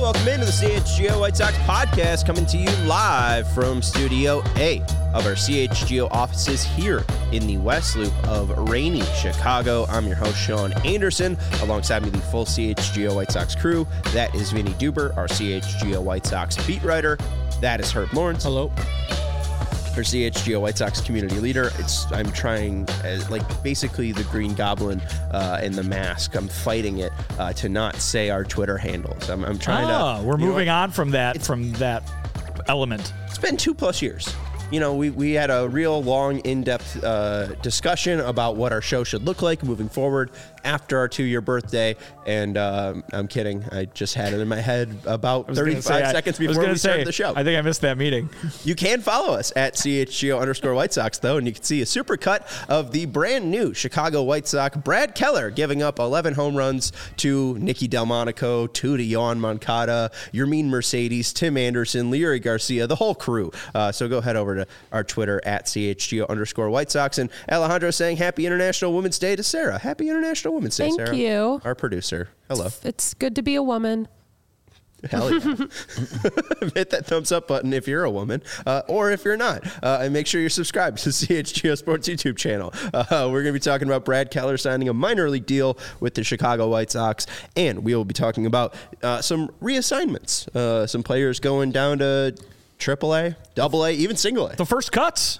welcome into the CHGO White Sox podcast, coming to you live from Studio A of our CHGO offices here in the West Loop of rainy Chicago. I'm your host, Sean Anderson. Alongside me, the full CHGO White Sox crew. That is Vinny Duber, our CHGO White Sox beat writer. That is Herb Lawrence. Hello. Our CHGO White Sox community leader. I'm trying, like basically the Green Goblin in the mask. I'm fighting it to not say our Twitter handles. I'm trying to. We're moving on from that element. It's been 2+ years. You know, we had a real long, in-depth discussion about what our show should look like moving forward after our 2-year birthday. And I'm kidding. I just had it in my head about 35 seconds before we started the show. I think I missed that meeting. You can follow us at CHGO_White Sox, though, and you can see a super cut of the brand new Chicago White Sox. Brad Keller giving up 11 home runs to Nicky Delmonico, 2 to Yohan Moncada, Yermin Mercedes, Tim Anderson, Leury Garcia, the whole crew. So go head over to our Twitter at CHGO_White Sox. And Alejandro saying Happy International Women's Day to Sarah. Happy International Women's Day, Sarah. Thank you. Our producer. Hello. It's good to be a woman. Hell yeah. Hit that thumbs up button if you're a woman, or if you're not. And make sure you're subscribed to the CHGO Sports YouTube channel. We're going to be talking about Brad Keller signing a minor league deal with the Chicago White Sox, and we will be talking about some reassignments. Some players going down to AAA, AA, even single A. The first cuts.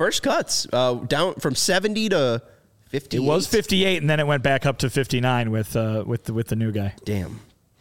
Down from 70 to 58. It was 58, and then it went back up to 59 with the new guy. Damn.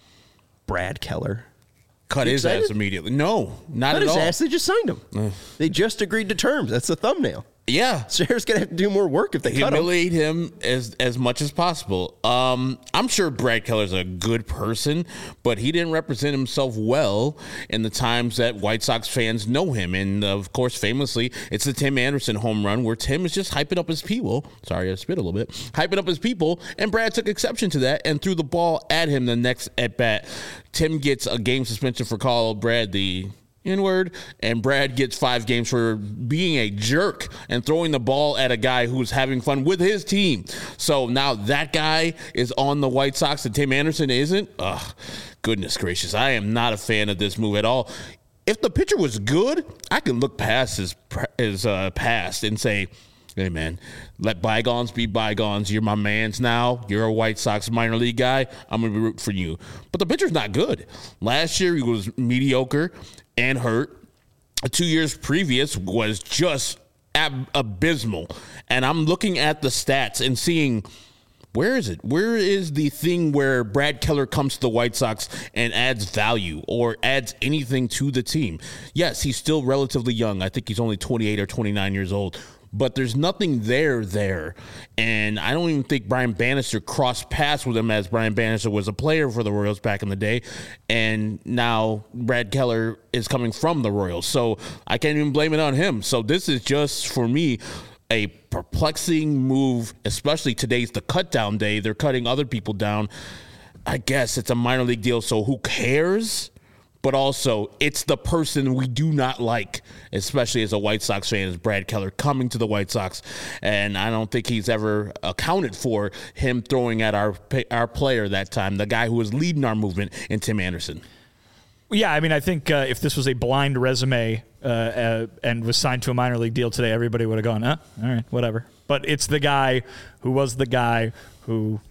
Brad Keller. Cut his ass immediately. No, not at all. Cut his ass. They just signed him. They just agreed to terms. That's the thumbnail. Yeah. Sarah's going to have to do more work if they cut him. Humiliate him as much as possible. I'm sure Brad Keller's a good person, but he didn't represent himself well in the times that White Sox fans know him. And, of course, famously, it's the Tim Anderson home run where Tim is just hyping up his people. Sorry, I spit a little bit. Hyping up his people, and Brad took exception to that and threw the ball at him the next at-bat. Tim gets a game suspension for calling Brad the N-word, and Brad gets 5 games for being a jerk and throwing the ball at a guy who's having fun with his team. So now that guy is on the White Sox and Tim Anderson isn't? Ugh, goodness gracious. I am not a fan of this move at all. If the pitcher was good, I can look past his past and say, hey, man, let bygones be bygones. You're my mans now. You're a White Sox minor league guy. I'm going to root for you. But the pitcher's not good. Last year, he was mediocre and hurt. 2 years previous was just abysmal. And I'm looking at the stats and seeing, where is it? Where is the thing where Brad Keller comes to the White Sox and adds value or adds anything to the team? Yes, he's still relatively young. I think he's only 28 or 29 years old. But there's nothing there. And I don't even think Brian Bannister crossed paths with him, as Brian Bannister was a player for the Royals back in the day. And now Brad Keller is coming from the Royals. So I can't even blame it on him. So this is just, for me, a perplexing move, especially today's the cut down day. They're cutting other people down. I guess it's a minor league deal, so who cares? But also, it's the person we do not like, especially as a White Sox fan, is Brad Keller coming to the White Sox. And I don't think he's ever accounted for him throwing at our player that time, the guy who was leading our movement in Tim Anderson. Yeah, I mean, I think if this was a blind resume and was signed to a minor league deal today, everybody would have gone, all right, whatever. But it's the guy who was the guy who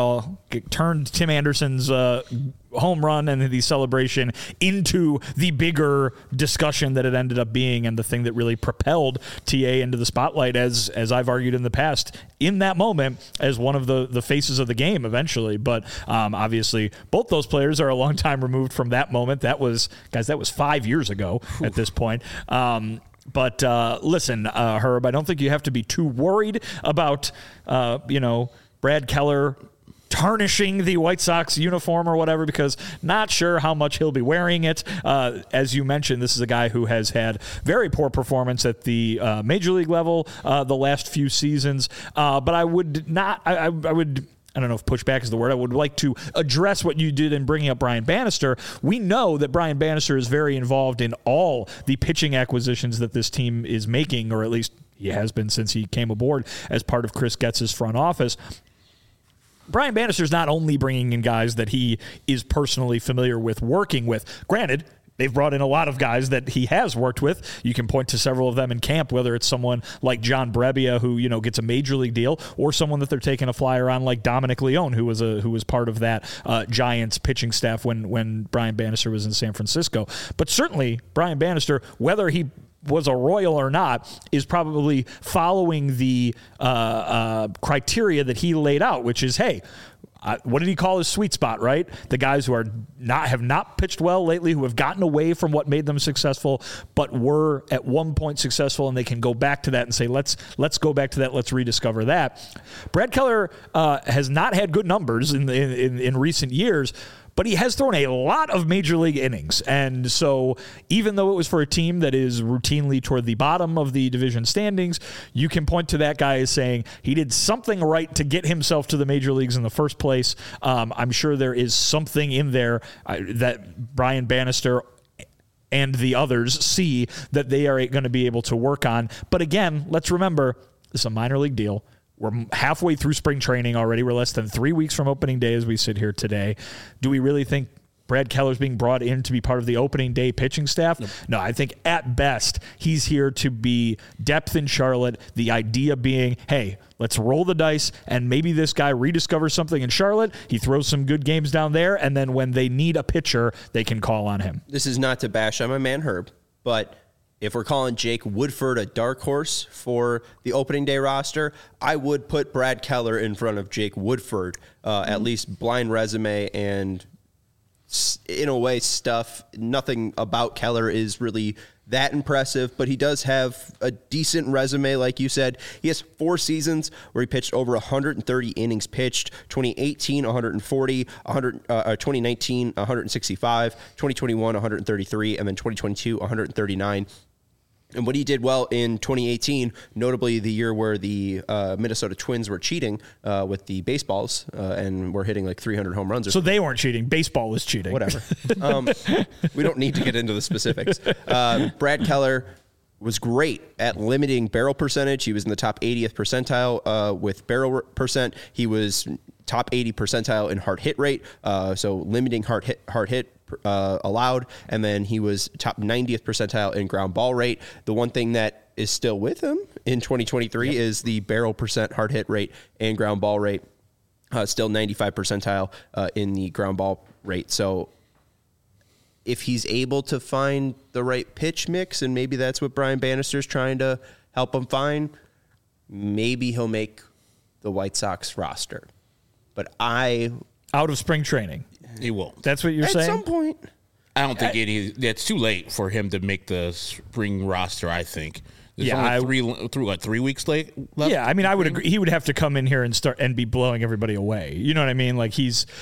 turned Tim Anderson's home run and the celebration into the bigger discussion that it ended up being, and the thing that really propelled TA into the spotlight, as I've argued in the past, in that moment, as one of the faces of the game eventually. But obviously, both those players are a long time removed from that moment. That was 5 years ago at this point. But listen, Herb, I don't think you have to be too worried about, Brad Keller tarnishing the White Sox uniform or whatever, because not sure how much he'll be wearing it. As you mentioned, this is a guy who has had very poor performance at the major league level the last few seasons. But I would not, I would, I don't know if pushback is the word. I would like to address what you did in bringing up Brian Bannister. We know that Brian Bannister is very involved in all the pitching acquisitions that this team is making, or at least he has been since he came aboard as part of Chris Getz's front office. Brian Bannister's not only bringing in guys that he is personally familiar with working with. Granted, they've brought in a lot of guys that he has worked with. You can point to several of them in camp, whether it's someone like John Brebbia, who gets a major league deal, or someone that they're taking a flyer on like Dominic Leone, who was part of that Giants pitching staff when Brian Bannister was in San Francisco. But certainly, Brian Bannister, whether he was a Royal or not, is probably following the criteria that he laid out, which is, hey, what did he call his sweet spot, right? The guys who have not pitched well lately, who have gotten away from what made them successful, but were at one point successful, and they can go back to that and say, let's go back to that, let's rediscover that. Brad Keller has not had good numbers in recent years, but he has thrown a lot of major league innings. And so even though it was for a team that is routinely toward the bottom of the division standings, you can point to that guy as saying he did something right to get himself to the major leagues in the first place. I'm sure there is something in there that Brian Bannister and the others see that they are going to be able to work on. But again, let's remember, this is a minor league deal. We're halfway through spring training already. We're less than 3 weeks from opening day as we sit here today. Do we really think Brad Keller's being brought in to be part of the opening day pitching staff? No, I think at best he's here to be depth in Charlotte. The idea being, hey, let's roll the dice, and maybe this guy rediscovers something in Charlotte. He throws some good games down there, and then when they need a pitcher, they can call on him. This is not to bash on my man Herb, but if we're calling Jake Woodford a dark horse for the opening day roster, I would put Brad Keller in front of Jake Woodford, at least blind resume and in a way stuff. Nothing about Keller is really that impressive, but he does have a decent resume. Like you said, he has 4 seasons where he pitched over 130 innings pitched. 2018, 140, 2019, 165, 2021, 133, and then 2022, 139. And what he did well in 2018, notably the year where the Minnesota Twins were cheating with the baseballs and were hitting like 300 home runs. So they weren't cheating. Baseball was cheating. Whatever. We don't need to get into the specifics. Brad Keller was great at limiting barrel percentage. He was in the top 80th percentile with barrel percent. He was top 80 percentile in hard hit rate, so limiting hard hit allowed, and then he was top 90th percentile in ground ball rate. The one thing that is still with him in 2023 is the barrel percent hard hit rate and ground ball rate, still 95 percentile in the ground ball rate. So if he's able to find the right pitch mix, and maybe that's what Brian Bannister's trying to help him find, maybe he'll make the White Sox roster. But out of spring training, he won't. That's what you're saying? At some point. I don't think it's too late for him to make the spring roster, I think. There's only 3 weeks left? Yeah, I mean, I would agree. He would have to come in here and start and be blowing everybody away. You know what I mean? Like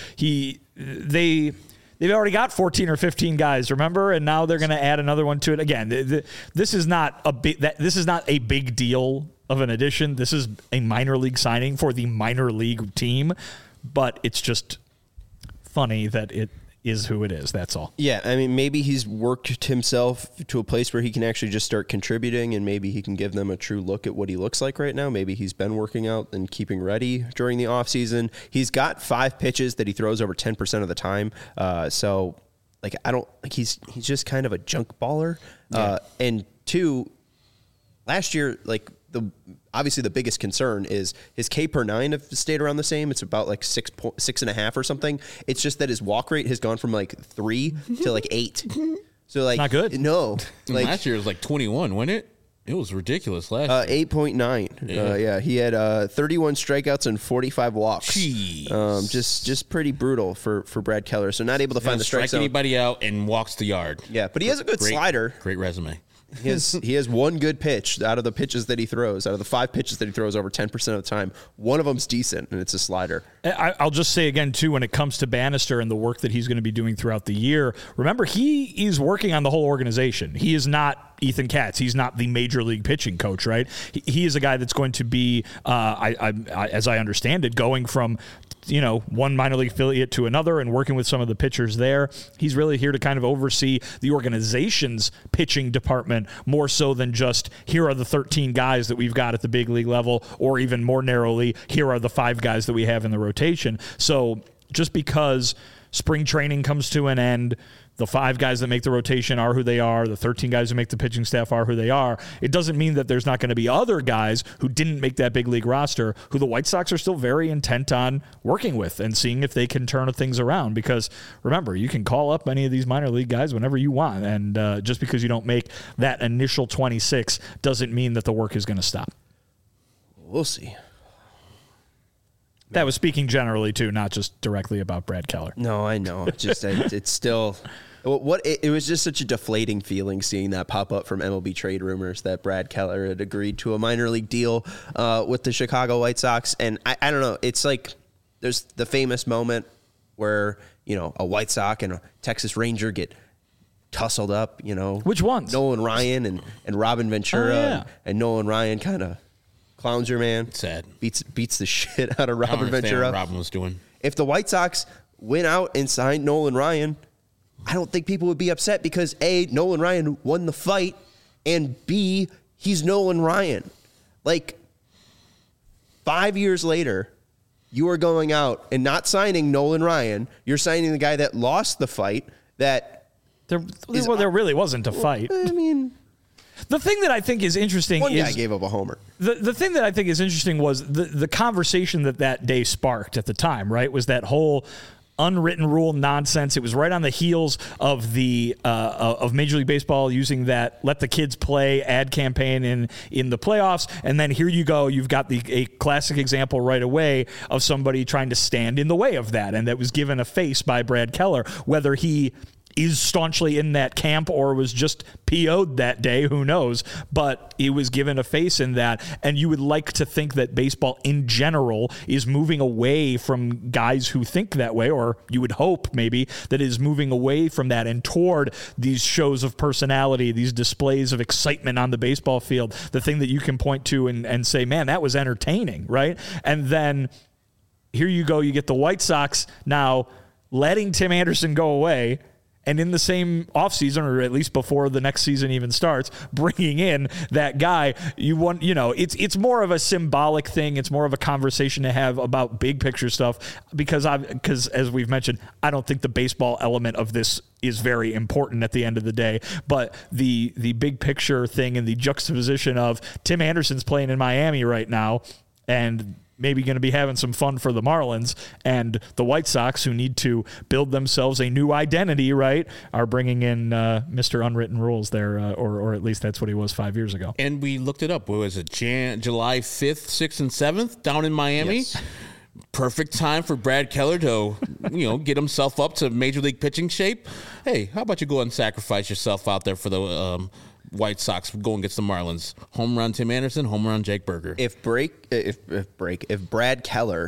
they've already got 14 or 15 guys, remember? And now they're going to add another one to it. Again, this is not a big deal of an addition. This is a minor league signing for the minor league team, but it's just funny that it is who it is. That's all. Yeah, I mean, maybe he's worked himself to a place where he can actually just start contributing, and maybe he can give them a true look at what he looks like right now. Maybe he's been working out and keeping ready during the offseason. He's got 5 pitches that he throws over 10% of the time. So, like, I don't like he's just kind of a junk baller. Yeah. And 2, last year, like obviously the biggest concern is his K per 9 have stayed around the same. It's about like 6.5 or something. It's just that his walk rate has gone from like 3 to like 8. So like not good. No, like last year it was like 21, wasn't it? It was ridiculous last year. 8.9. Yeah, he had 31 strikeouts and 45 walks. Jeez. Just pretty brutal for Brad Keller. So not able to find the strike zone. Anybody out and walks the yard. Yeah, but he has a good slider. Great resume. He has one good pitch out of the pitches that he throws. Out of the 5 pitches that he throws over 10% of the time, one of them's decent, and it's a slider. I'll just say again, too, when it comes to Bannister and the work that he's going to be doing throughout the year, remember, he is working on the whole organization. He is not Ethan Katz. He's not the major league pitching coach, right? He is a guy that's going to be, as I understand it, going from one minor league affiliate to another and working with some of the pitchers there. He's really here to kind of oversee the organization's pitching department more so than just here are the 13 guys that we've got at the big league level, or even more narrowly, here are the 5 guys that we have in the rotation. So just because spring training comes to an end, the 5 guys that make the rotation are who they are, the 13 guys who make the pitching staff are who they are, it doesn't mean that there's not going to be other guys who didn't make that big league roster who the White Sox are still very intent on working with and seeing if they can turn things around. Because remember, you can call up any of these minor league guys whenever you want, and just because you don't make that initial 26 doesn't mean that the work is going to stop. We'll see. That was speaking generally, too, not just directly about Brad Keller. No, I know. It's still... It was just such a deflating feeling seeing that pop up from MLB trade rumors that Brad Keller had agreed to a minor league deal with the Chicago White Sox. And I don't know. It's like there's the famous moment where, a White Sox and a Texas Ranger get tussled up, Which ones? Nolan Ryan and Robin Ventura. Oh, yeah. And Nolan Ryan kind of clowns your man. Sad. Beats the shit out of I don't Robin understand Ventura. what Robin was doing. If the White Sox went out and signed Nolan Ryan, I don't think people would be upset because A, Nolan Ryan won the fight, and B, he's Nolan Ryan. Like, 5 years later, you are going out and not signing Nolan Ryan. You're signing the guy that lost the fight. That there really wasn't a fight. I mean, the thing that I think is interesting one is guy gave up a homer. The thing that I think is interesting was the conversation that day sparked at the time, right? Was that whole unwritten rule nonsense. It was right on the heels of the of Major League Baseball using that "let the kids play" ad campaign in the playoffs, and then here you go, you've got a classic example right away of somebody trying to stand in the way of that, and that was given a face by Brad Keller. Whether he is staunchly in that camp or was just PO'd that day, who knows? But he was given a face in that, and you would like to think that baseball in general is moving away from guys who think that way, or you would hope maybe that is moving away from that and toward these shows of personality, these displays of excitement on the baseball field, the thing that you can point to and say, man, that was entertaining, right? And then here you go, you get the White Sox now letting Tim Anderson go away, and in the same offseason, or at least before the next season even starts, bringing in that guy. It's more of a symbolic thing. It's more of a conversation to have about big picture stuff because as we've mentioned, I don't think the baseball element of this is very important at the end of the day. But the big picture thing and the juxtaposition of Tim Anderson's playing in Miami right now and maybe going to be having some fun for the Marlins, and the White Sox, who need to build themselves a new identity, right, are bringing in Mr. Unwritten Rules there, or at least that's what he was 5 years ago. And we looked it up. What was it, July 5th, 6th, and 7th down in Miami? Yes. Perfect time for Brad Keller to, get himself up to Major League pitching shape. Hey, how about you go and sacrifice yourself out there for the White Sox going against the Marlins? Home run Tim Anderson, home run Jake Berger. If Brad Keller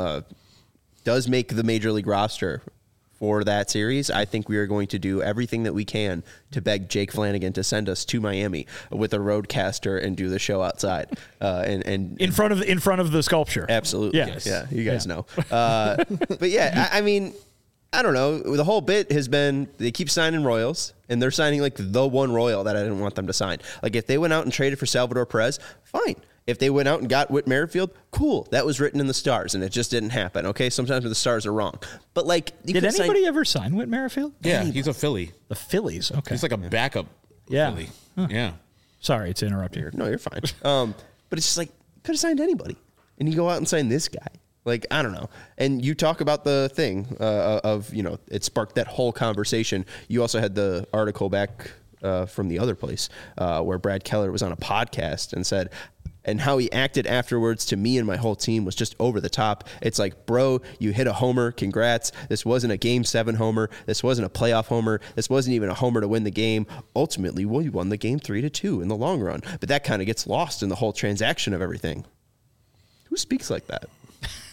does make the Major League roster for that series, I think we are going to do everything that we can to beg Jake Flanagan to send us to Miami with a roadcaster and do the show outside and in front of the sculpture. Absolutely, yes. Yeah, you guys know. But yeah, I mean, I don't know. The whole bit has been they keep signing Royals, and they're signing like the one Royal that I didn't want them to sign. Like if they went out and traded for Salvador Perez, fine. If they went out and got Whit Merrifield, cool. That was written in the stars, and it just didn't happen. Okay, sometimes the stars are wrong. But like, did anybody ever sign Whit Merrifield? Yeah, he's a Philly. The Phillies. Okay, he's like a backup. Yeah. Philly. Huh. Yeah. Sorry to interrupt you. No, you're fine. But it's just like could have signed anybody, and you go out and sign this guy. Like, I don't know. And you talk about the thing of, it sparked that whole conversation. You also had the article back from the other place where Brad Keller was on a podcast and said, and how he acted afterwards to me and my whole team was just over the top. It's like, bro, you hit a homer. Congrats. This wasn't a Game 7 homer. This wasn't a playoff homer. This wasn't even a homer to win the game. Ultimately, we won the game 3-2 in the long run. But that kind of gets lost in the whole transaction of everything. Who speaks like that?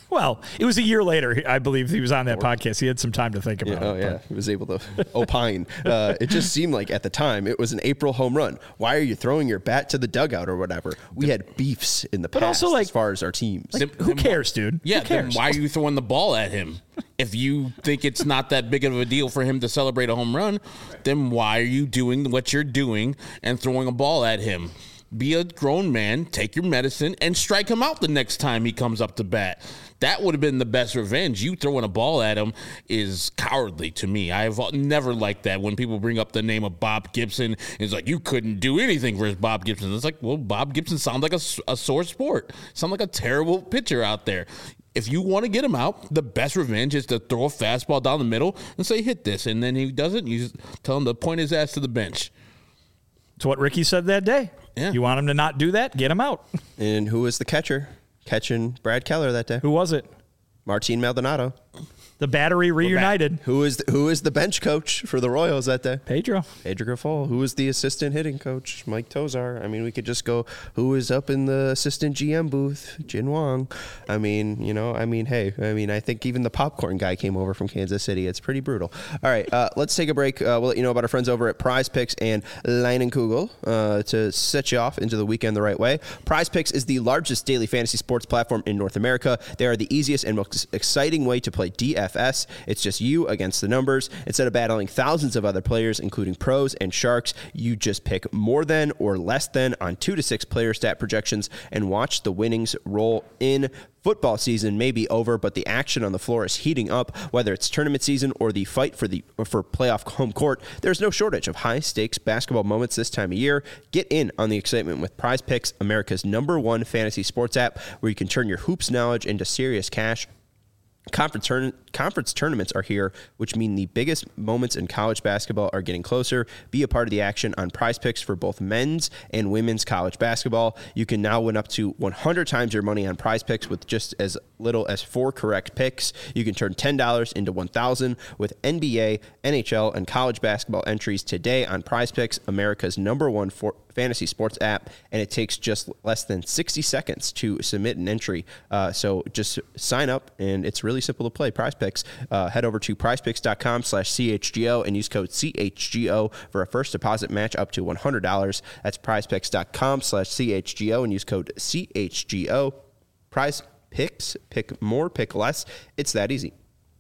Well, it was a year later. I believe he was on that podcast. He had some time to think about it. Oh, yeah. He was able to opine. It just seemed like at the time it was an April home run. Why are you throwing your bat to the dugout or whatever? We had beefs in the past also, like, as far as our teams. Like, who cares, dude? Yeah, who cares? then why are you throwing the ball at him? If you think it's not that big of a deal for him to celebrate a home run, then why are you doing what you're doing and throwing a ball at him? Be a grown man, take your medicine, and strike him out the next time he comes up to bat. That would have been the best revenge. You throwing a ball at him is cowardly to me. I've never liked that when people bring up the name of Bob Gibson. It's like, you couldn't do anything for Bob Gibson. It's like, well, Bob Gibson sounds like a sore sport. Sounds like a terrible pitcher out there. If you want to get him out, the best revenge is to throw a fastball down the middle and say, hit this. And then he doesn't. You just tell him to point his ass to the bench. It's what Ricky said that day. Yeah. You want him to not do that? Get him out. And who was the catcher catching Brad Keller that day? Who was it? Martin Maldonado. The battery reunited. Who is the bench coach for the Royals that day? Pedro Grifol. Who was the assistant hitting coach? Mike Tozar. I mean, we could just go, who was up in the assistant GM booth? Jin Wong. I mean, hey, I think even the popcorn guy came over from Kansas City. It's pretty brutal. All right, let's take a break. We'll let you know about our friends over at Prize Picks and Leinenkugel to set you off into the weekend the right way. Prize Picks is the largest daily fantasy sports platform in North America. They are the easiest and most exciting way to play DFS. It's just you against the numbers. Instead of battling thousands of other players, including pros and sharks, you just pick more than or less than on 2 to 6 player stat projections and watch the winnings roll in. Football season may be over, but the action on the floor is heating up. Whether it's tournament season or the fight for playoff home court, there's no shortage of high-stakes basketball moments this time of year. Get in on the excitement with Prize Picks, America's #1 fantasy sports app, where you can turn your hoops knowledge into serious cash. Conference tournaments are here, which mean the biggest moments in college basketball are getting closer. Be a part of the action on Prize Picks for both men's and women's college basketball. You can now win up to 100 times your money on Prize Picks with just as little as 4 correct picks. You can turn $10 into $1,000 with NBA, NHL, and college basketball entries today on Prize Picks, America's #1 fantasy sports app, and it takes just less than 60 seconds to submit an entry. So just sign up, and it's really simple to play. Prize Picks. Head over to prizepicks.com/CHGO and use code CHGO for a first deposit match up to $100. That's prizepicks.com/CHGO and use code CHGO. Prize Picks. Pick more, pick less. It's that easy.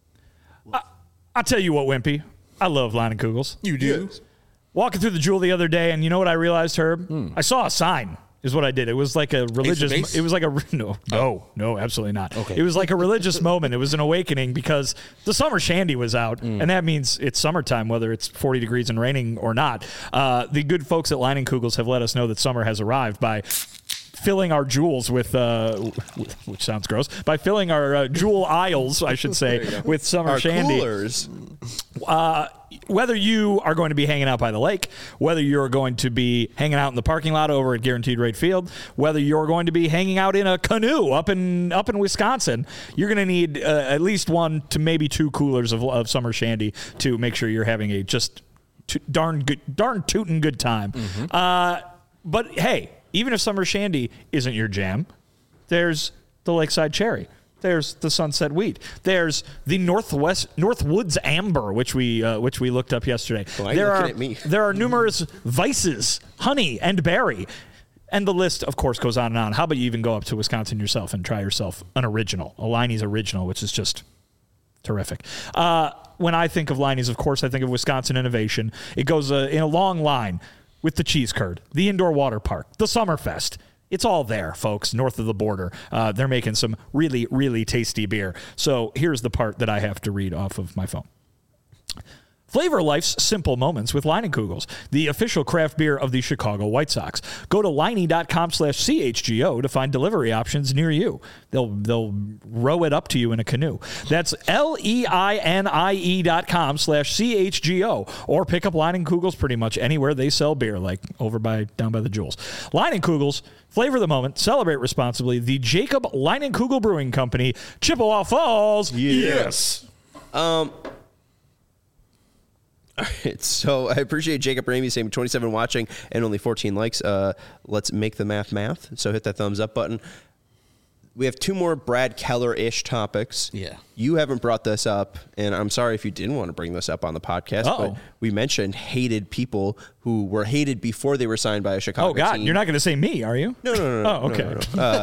I'll tell you what, Wimpy. I love Leinenkugels. You do? Yes. Walking through the Jewel the other day, and you know what I realized, Herb? I saw a sign. Is what I did. It was like a religious. It was like a no, absolutely not. Okay. It was like a religious moment. It was an awakening because the summer shandy was out, and that means it's summertime, whether it's 40 degrees and raining or not. The good folks at Leinenkugels have let us know that summer has arrived by filling our jewels with, which sounds gross, by filling our jewel aisles, I should say, with summer our shandy. Coolers. Whether you are going to be hanging out by the lake, whether you're going to be hanging out in the parking lot over at Guaranteed Rate Field, whether you're going to be hanging out in a canoe up in Wisconsin, you're going to need at least 1 to maybe 2 coolers of summer shandy to make sure you're having a just darn tootin' good time. But hey, even if summer shandy isn't your jam, there's the Lakeside Cherry. There's the Sunset Wheat. There's the Northwoods Amber, which we looked up yesterday. Why are you looking at me? There are numerous vices, honey and berry, and the list, of course, goes on and on. How about you even go up to Wisconsin yourself and try yourself an original, a Leinie's original, which is just terrific. When I think of Leinie's, of course, I think of Wisconsin innovation. It goes in a long line with the cheese curd, the indoor water park, the Summerfest. It's all there, folks, north of the border. They're making some really, really tasty beer. So here's the part that I have to read off of my phone. Flavor life's simple moments with Leinenkugels, the official craft beer of the Chicago White Sox. Go to Leinie.com/CHGO to find delivery options near you. They'll row it up to you in a canoe. That's LEINIE.com/CHGO, or pick up Leinenkugels pretty much anywhere they sell beer, like down by the Jewels. Leinenkugels, flavor the moment, celebrate responsibly. The Jacob Leinenkugel Brewing Company, Chippewa Falls. Yes. All right, so I appreciate Jacob Ramey saying 27 watching and only 14 likes. Let's make the math. So hit that thumbs up button. We have two more Brad Keller-ish topics. Yeah. You haven't brought this up, and I'm sorry if you didn't want to bring this up on the podcast, but we mentioned hated people who were hated before they were signed by a Chicago God, team. You're not going to say me, are you? No. Oh, okay.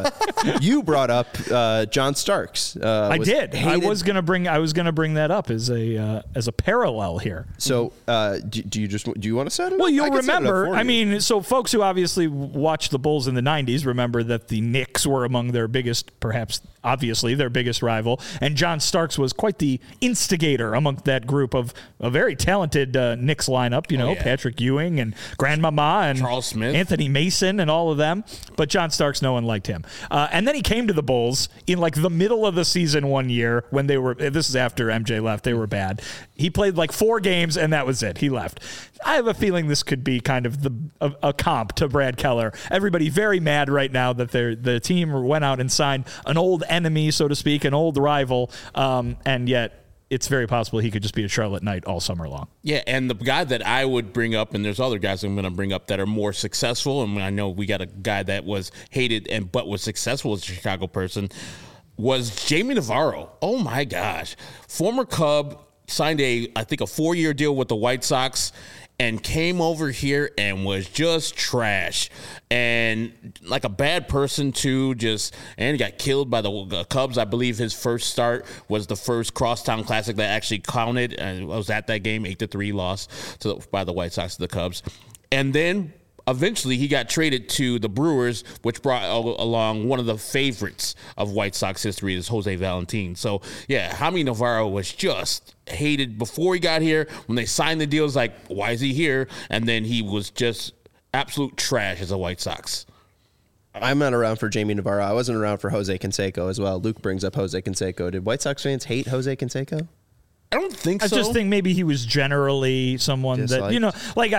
No. You brought up John Starks. I did. Hated. I was going to bring that up as a parallel here. So, do you want to set it? Well, up? you'll I can set it up remember. for I you. mean, so folks who obviously watched the Bulls in the '90s remember that the Knicks were among their biggest, perhaps obviously their biggest rival, and John Starks was quite the instigator among that group of a very talented Knicks lineup. You know, Patrick Ewing and Grandmama and Charles Smith, Anthony Mason, and all of them. But John Starks, no one liked him. And then he came to the Bulls in like the middle of the season one year when they were. This is after MJ left. They were bad. He played like 4 games and that was it. He left. I have a feeling this could be kind of a comp to Brad Keller. Everybody very mad right now that the team went out and signed an old enemy, so to speak, an old rival, and yet it's very possible he could just be a Charlotte Knight all summer long. Yeah, and the guy that I would bring up, and there's other guys I'm going to bring up that are more successful, and I know we got a guy that was hated but was successful as a Chicago person, was Jamie Navarro. Oh my gosh. Former Cub, signed I think a 4-year deal with the White Sox, and came over here and was just trash and like a bad person too. And he got killed by the Cubs. I believe his first start was the first Crosstown Classic that actually counted, and I was at that game. 8-3 loss by the White Sox to the Cubs, and then eventually he got traded to the Brewers, which brought along one of the favorites of White Sox history, is Jose Valentin. So yeah, Jaime Navarro was just hated before he got here. When they signed the deal, it was like, why is he here? And then he was just absolute trash as a White Sox. I'm not around for Jamie Navarro. I wasn't around for Jose Canseco as well. Luke brings up Jose Canseco. Did White Sox fans hate Jose Canseco? I don't think so. I just think maybe he was generally someone Disliked. that, you know, like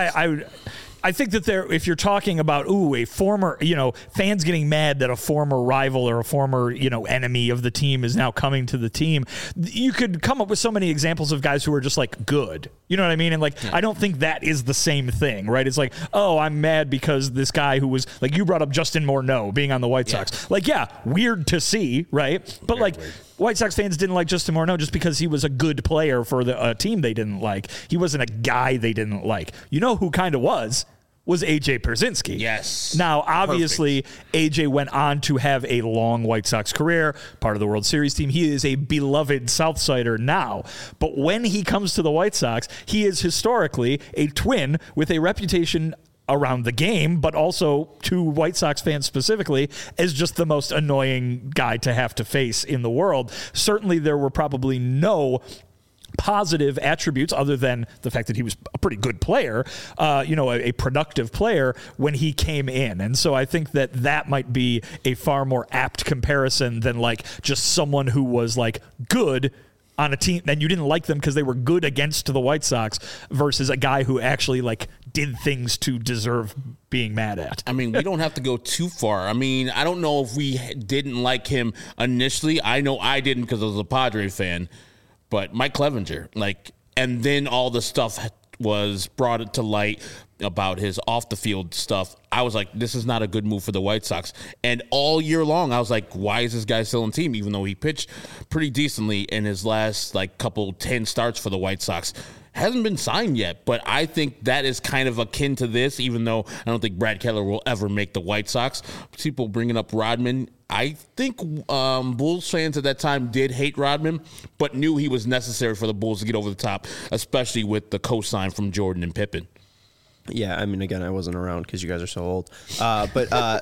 I think that if you're talking about, a former, fans getting mad that a former rival or a former, enemy of the team is now coming to the team, you could come up with so many examples of guys who are just like good. You know what I mean? And I don't think that is the same thing, right? It's like, I'm mad because this guy who was, like, you brought up Justin Morneau being on the White Sox. Like, weird to see, right? But very weird. White Sox fans didn't like Justin Morneau just because he was a good player for the team they didn't like. He wasn't a guy they didn't like. You know who kind of was A.J. Pierzynski. Yes. Now, obviously, A.J. went on to have a long White Sox career, part of the World Series team. He is a beloved Southsider now. But when he comes to the White Sox, he is historically a Twin with a reputation around the game, but also to White Sox fans specifically, as just the most annoying guy to have to face in the world. Certainly, there were probably no positive attributes other than the fact that he was a pretty good player, a productive player when he came in. And so I think that might be a far more apt comparison than like just someone who was like good on a team and you didn't like them because they were good against the White Sox versus a guy who actually like did things to deserve being mad at. I mean, we don't have to go too far. I mean, I don't know if we didn't like him initially. I know I didn't because I was a Padre fan. But Mike Clevenger, and then all the stuff was brought to light about his off the field stuff. I was like, this is not a good move for the White Sox. And all year long, I was like, why is this guy still in the team? Even though he pitched pretty decently in his last 10 starts for the White Sox. Hasn't been signed yet, but I think that is kind of akin to this, even though I don't think Brad Keller will ever make the White Sox. People bringing up Rodman. I think Bulls fans at that time did hate Rodman, but knew he was necessary for the Bulls to get over the top, especially with the cosign from Jordan and Pippen. Yeah, I mean, again, I wasn't around because you guys are so old. But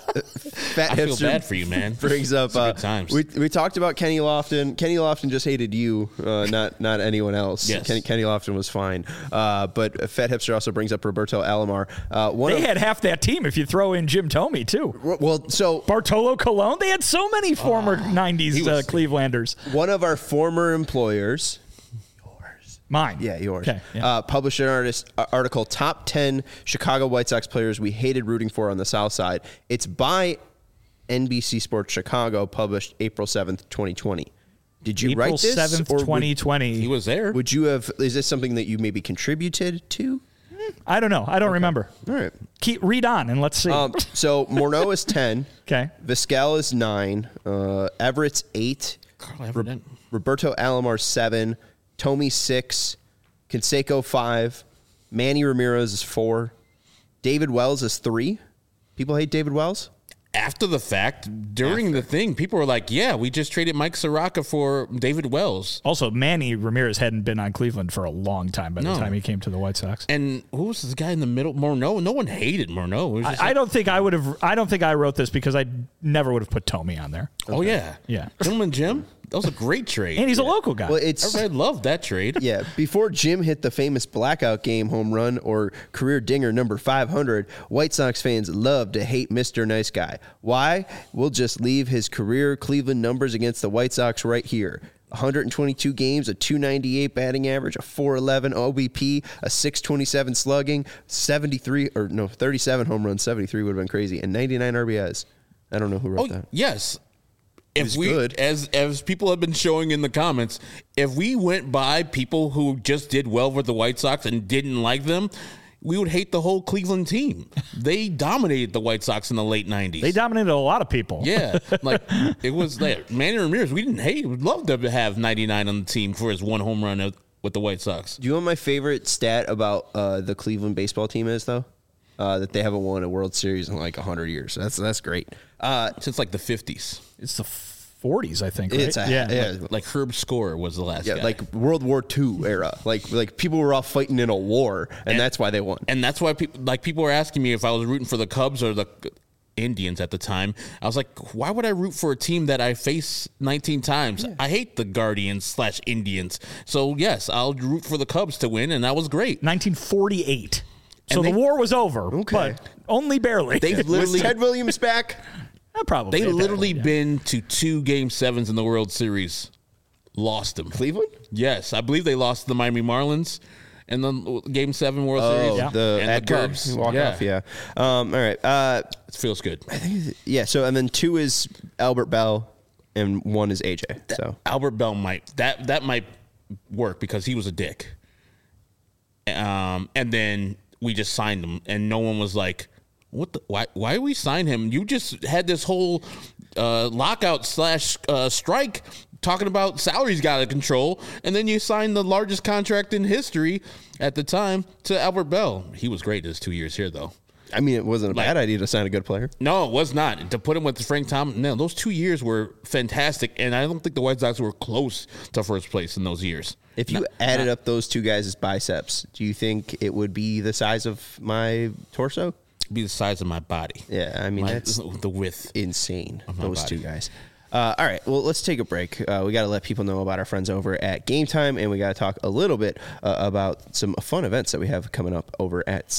Fat I feel Hipster bad for you, man. Brings up Good times. We talked about Kenny Lofton. Kenny Lofton just hated you, not anyone else. Yes. Kenny Lofton was fine. But Fat Hipster also brings up Roberto Alomar. They had half that team if you throw in Jim Thome too. Well, so Bartolo Colon. They had so many former '90s Clevelanders. One of our former employers. Mine. Yeah, yours. Okay, yeah. Published an article, Top 10 Chicago White Sox Players We Hated Rooting For on the South Side. It's by NBC Sports Chicago, published April 7th, 2020. Did you write this? April 7th, 2020. He was there. Would you have, is this something that you maybe contributed to? I don't know. I don't remember. All right. Read on and let's see. So Morneau is 10. Okay. Vizquel is 9. Everett's 8. Roberto Alomar 7. Tomey 6. Canseco 5. Manny Ramirez is 4. David Wells is 3. People hate David Wells? After the fact, during the thing, people were like, yeah, we just traded Mike Soroka for David Wells. Also, Manny Ramirez hadn't been on Cleveland for a long time by the time he came to the White Sox. And who was this guy in the middle? Morneau. No one hated Morneau. I don't think I would have. I don't think I wrote this because I never would have put Tomey on there. Oh, yeah. Yeah. Gentleman Jim? That was a great trade. And he's a local guy. Well, Everybody loved that trade. Yeah, before Jim hit the famous blackout game home run or career dinger number 500, White Sox fans love to hate Mr. Nice Guy. Why? We'll just leave his career Cleveland numbers against the White Sox right here. 122 games, a 298 batting average, a 411 OBP, a 627 slugging, 37 home runs, 73 would have been crazy, and 99 RBIs. I don't know who wrote that. Yes. If we, good. as people have been showing in the comments, if we went by people who just did well with the White Sox and didn't like them, we would hate the whole Cleveland team. They dominated the White Sox in the late 90s. They dominated a lot of people. Yeah. Like, it was like Manny Ramirez, we didn't hate. We'd love to have 99 on the team for his one home run with the White Sox. Do you know what my favorite stat about the Cleveland baseball team is, though? That they haven't won a World Series in like 100 years. That's great. Since like the 50s. It's the 40s, I think. Right? It's yeah. Like Herb Score was the last guy. Like World War II era. Like people were all fighting in a war, and that's why they won. And that's why people were asking me if I was rooting for the Cubs or the Indians at the time. I was like, why would I root for a team that I face 19 times? Yeah. I hate the Guardians/Indians. So yes, I'll root for the Cubs to win, and that was great. 1948. So the war was over, but only barely. Was Ted Williams back? Probably. They literally been to 2 Game 7s in the World Series. Lost them. Cleveland? Yes. I believe they lost to the Miami Marlins in the Game 7 World Series. Yeah. The Edgar walk-off, yeah. All right. It feels good. I think, so, and then 2 is Albert Bell, and 1 is AJ. So Albert Bell might work because he was a dick. And then we just signed him, and no one was like, why we sign him? You just had this whole lockout / strike talking about salaries got out of control, and then you signed the largest contract in history at the time to Albert Bell. He was great his 2 years here, though. I mean, it wasn't a bad idea to sign a good player. No, it was not. To put him with Frank Thomas, no, those 2 years were fantastic, and I don't think the White Sox were close to first place in those years. If you added up those 2 guys' biceps, do you think it would be the size of my torso? Be the size of my body. Yeah, I mean, that's the width. Insane, those body. 2 guys. All right, well, let's take a break. We got to let people know about our friends over at Game Time, and we got to talk a little bit about some fun events that we have coming up over at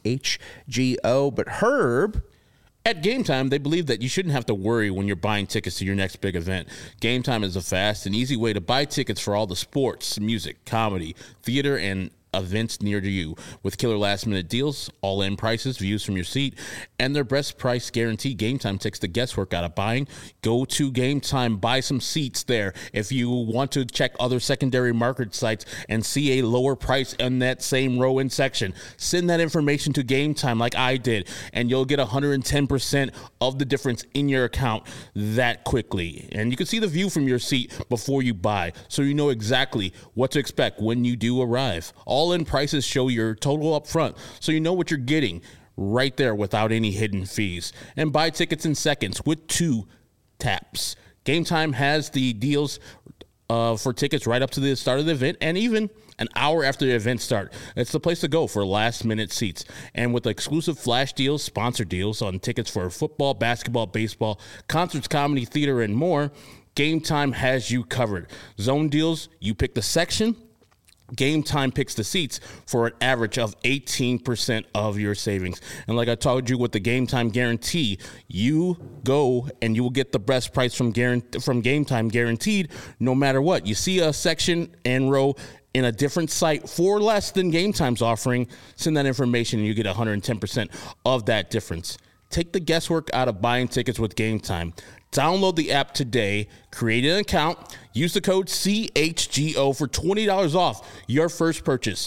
CHGO. But Herb... At Game Time, they believe that you shouldn't have to worry when you're buying tickets to your next big event. Game Time is a fast and easy way to buy tickets for all the sports, music, comedy, theater, and events near to you. With killer last-minute deals, all-in prices, views from your seat, and their best price guarantee, Game Time takes the guesswork out of buying. Go to Game Time, buy some seats there. If you want to check other secondary market sites and see a lower price in that same row and section, send that information to Game Time like I did, and you'll get 110% of the difference in your account that quickly. And you can see the view from your seat before you buy, so you know exactly what to expect when you do arrive. All-in prices show your total up front, so you know what you're getting right there without any hidden fees. And buy tickets in seconds with 2 taps. Game Time has the deals for tickets right up to the start of the event and even an hour after the event start. It's the place to go for last-minute seats. And with exclusive flash deals, sponsor deals on tickets for football, basketball, baseball, concerts, comedy, theater, and more, Game Time has you covered. Zone deals, you pick the section. Game Time picks the seats for an average of 18% of your savings. And like I told you with the Game Time guarantee, you go and you will get the best price from Game Time guaranteed no matter what. You see a section and row in a different site for less than Game Time's offering, send that information and you get 110% of that difference. Take the guesswork out of buying tickets with Game Time. Download the app today, create an account, use the code CHGO for $20 off your first purchase.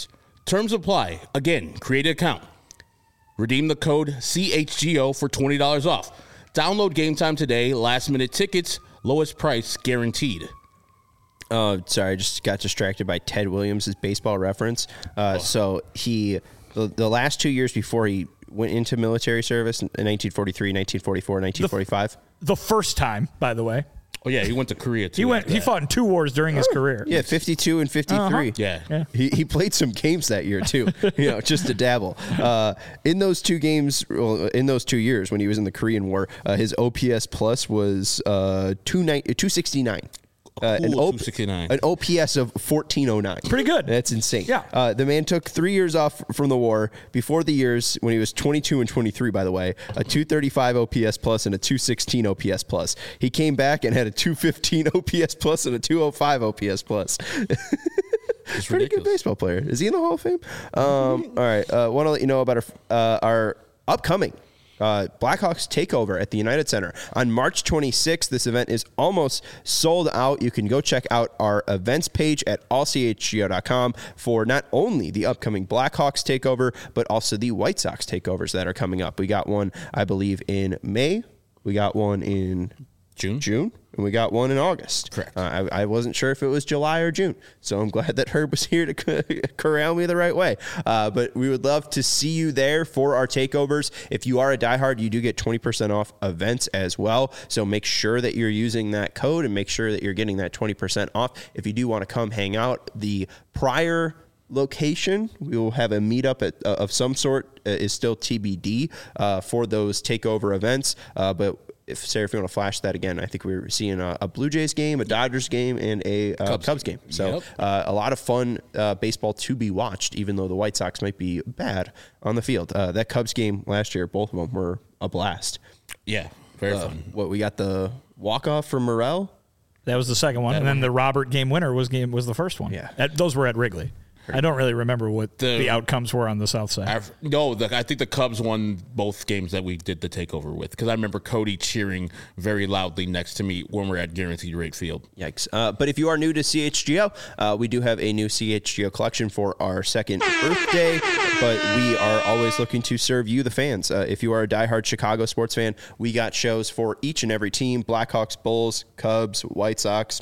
Terms apply. Again, create an account. Redeem the code CHGO for $20 off. Download Game Time today. Last-minute tickets. Lowest price guaranteed. Sorry, I just got distracted by Ted Williams' baseball reference. So the last 2 years before he went into military service in 1943, 1944, 1945. The first time, by the way. Oh, yeah, he went to Korea, too. He fought in 2 wars during his career. Yeah, 52 and 53. Yeah. He played some games that year, too, just to dabble. In those 2 games, in those 2 years when he was in the Korean War, his OPS plus was 269. An 269. An OPS of 1409. Pretty good. That's insane. Yeah. The man took 3 years off from the war. Before the years, when he was 22 and 23, by the way, a 235 OPS plus and a 216 OPS plus. He came back and had a 215 OPS plus and a 205 OPS plus. It's Pretty good baseball player. Is he in the Hall of Fame? All right. Want to let you know about our upcoming Blackhawks takeover at the United Center on March 26th. This event is almost sold out. You can go check out our events page at allchgo.com for not only the upcoming Blackhawks takeover, but also the White Sox takeovers that are coming up. We got one, I believe, in May. We got one in June, and we got one in August. Correct. I wasn't sure if it was July or June, so I'm glad that Herb was here to corral me the right way. But we would love to see you there for our takeovers. If you are a diehard, you do get 20% off events as well, so make sure that you're using that code and make sure that you're getting that 20% off. If you do want to come hang out, the prior location, we will have a meetup of some sort, is still TBD for those takeover events, but if you want to flash that again, I think we were seeing a Blue Jays game, a Dodgers game, and a Cubs game. So a lot of fun baseball to be watched, even though the White Sox might be bad on the field. That Cubs game last year, both of them were a blast. Yeah, very fun. We got the walk-off from Morel? That was the second one. And then the Robert game winner was the first one. Yeah. Those were at Wrigley. I don't really remember what the outcomes were on the South side. I think the Cubs won both games that we did the takeover with, because I remember Cody cheering very loudly next to me when we're at Guaranteed Rate Field. Yikes. But if you are new to CHGO, we do have a new CHGO collection for our second birthday, but we are always looking to serve you, the fans. If you are a diehard Chicago sports fan, we got shows for each and every team: Blackhawks, Bulls, Cubs, White Sox,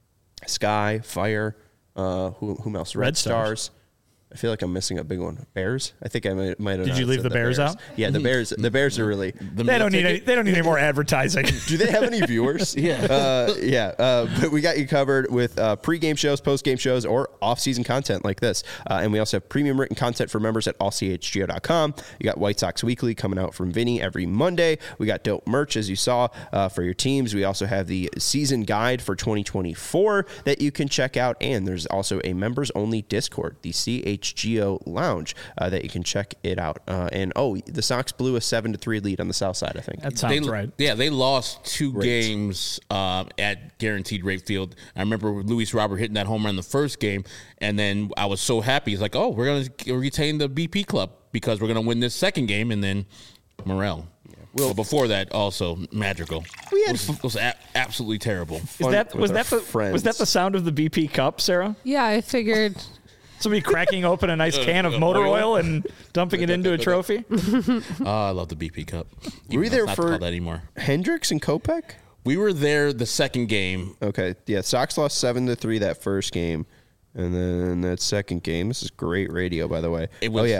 Sky, Fire, whom else? Red Stars. I feel like I'm missing a big one. Bears? I think I might have. Did you leave the Bears out? Yeah, the Bears. The Bears are really. They don't need any more advertising. Do they have any viewers? Yeah. But we got you covered with pregame shows, postgame shows, or off-season content like this. And we also have premium written content for members at allchgo.com. You got White Sox Weekly coming out from Vinny every Monday. We got dope merch, as you saw, for your teams. We also have the season guide for 2024 that you can check out. And there's also a members-only Discord, the CHGO Lounge, that you can check it out. And the Sox blew a 7-3 lead on the South Side, I think. That sounds right. Yeah, they lost 2 games at Guaranteed Rate Field. I remember Luis Robert hitting that home run in the first game, and then I was so happy. He's like, "Oh, we're going to retain the BP club because we're going to win this second game," and then Morel. Well, before that, also Madrigal. It was absolutely terrible. Was that the sound of the BP cup, Sarah? Yeah, I figured. Somebody cracking open a nice can of motor oil and dumping it into a trophy? I love the BP Cup. Were we there not for called that anymore. Hendricks and Kopech? We were there the second game. Okay, yeah, Sox lost 7-3 that first game, and then that second game. This is great radio, by the way. It was,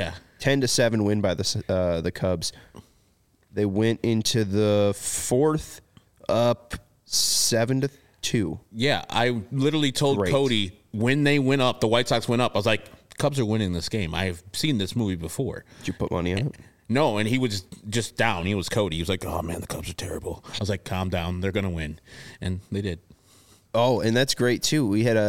10-7 win by the Cubs. They went into the fourth up 7-2. Yeah, I literally told Cody when they went up, the White Sox went up. I was like, Cubs are winning this game. I've seen this movie before. Did you put money on it? No, and he was just down. He was Cody. He was like, "Oh man, the Cubs are terrible." I was like, "Calm down. They're gonna win," and they did. Oh, and that's great too. We had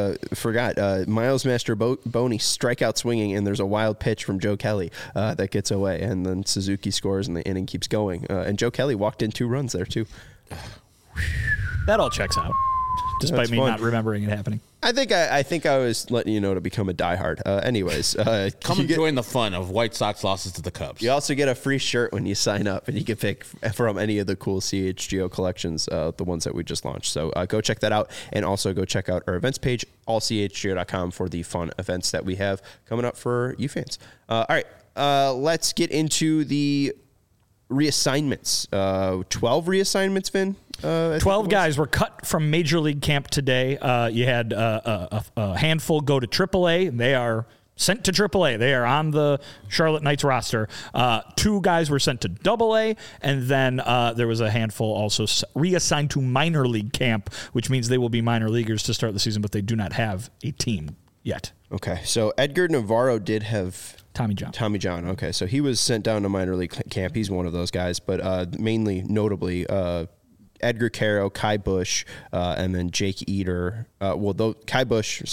Miles Mastrobuoni strikeout swinging, and there's a wild pitch from Joe Kelly that gets away, and then Suzuki scores, and the inning keeps going. And Joe Kelly walked in 2 runs there too. That all checks out. despite That's me fun. not remembering it happening. I think I was letting you know to become a diehard. Anyways, Come and join the fun of White Sox losses to the Cubs. you also get a free shirt when you sign up, and you can pick from any of the cool CHGO collections, the ones that we just launched. So go check that out, and also go check out our events page, allchgo.com, for the fun events that we have coming up for you fans. All right, let's get into the reassignments. 12 reassignments, Vin? 12 guys were cut from Major League camp today. You had a handful go to AAA. They are sent to AAA. They are on the Charlotte Knights roster. 2 guys were sent to AA, and then there was a handful also reassigned to minor league camp, which means they will be minor leaguers to start the season, but they do not have a team yet. Okay, so Edgar Navarro did have Tommy John. Okay, so he was sent down to minor league camp. He's one of those guys, but mainly, notably, Edgar Caro, Kai Bush, and then Jake Eder. Kai Bush,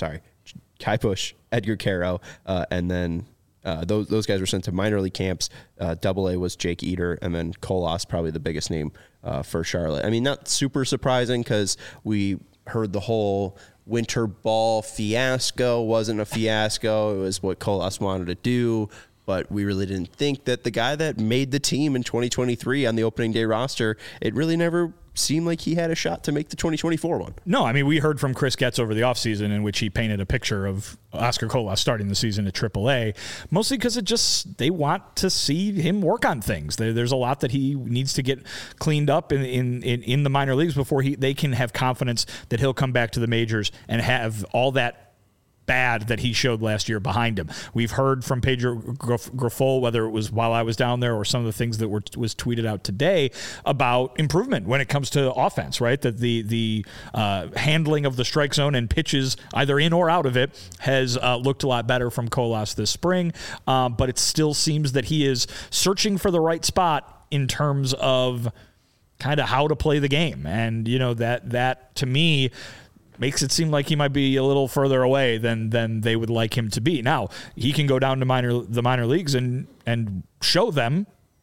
Edgar Caro, and then those guys were sent to minor league camps. AA was Jake Eder, and then Colas, probably the biggest name for Charlotte. I mean, not super surprising because we heard the whole winter ball fiasco wasn't a fiasco. It was what Colas wanted to do. But we really didn't think that the guy that made the team in 2023 on the opening day roster, it really never seemed like he had a shot to make the 2024 one. No, I mean, we heard from Chris Getz over the offseason in which he painted a picture of Oscar Colas starting the season at AAA, mostly because they want to see him work on things. There's a lot that he needs to get cleaned up in the minor leagues before they can have confidence that he'll come back to the majors and have all that bad that he showed last year behind him. We've heard from Pedro Grifol, whether it was while I was down there or some of the things that was tweeted out today, about improvement when it comes to offense, right? That the handling of the strike zone and pitches either in or out of it has looked a lot better from Colas this spring, but it still seems that he is searching for the right spot in terms of kind of how to play the game. And, that to me makes it seem like he might be a little further away than they would like him to be. Now, he can go down to the minor leagues and show them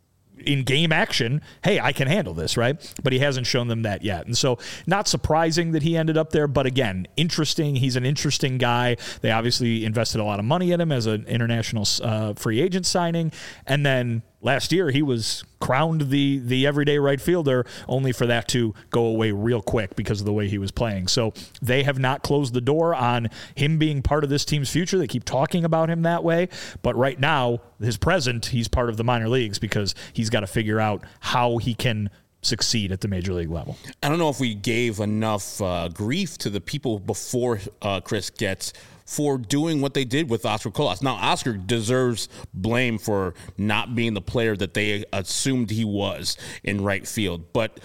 in game action, hey, I can handle this, right? But he hasn't shown them that yet. And so not surprising that he ended up there, but again, interesting. He's an interesting guy. They obviously invested a lot of money in him as an international free agent signing. And then last year, he was crowned the everyday right fielder, only for that to go away real quick because of the way he was playing. So they have not closed the door on him being part of this team's future. They keep talking about him that way. But right now, his present, he's part of the minor leagues because he's got to figure out how he can succeed at the major league level. I don't know if we gave enough grief to the people before Chris Getz for doing what they did with Oscar Colas. Now, Oscar deserves blame for not being the player that they assumed he was in right field. But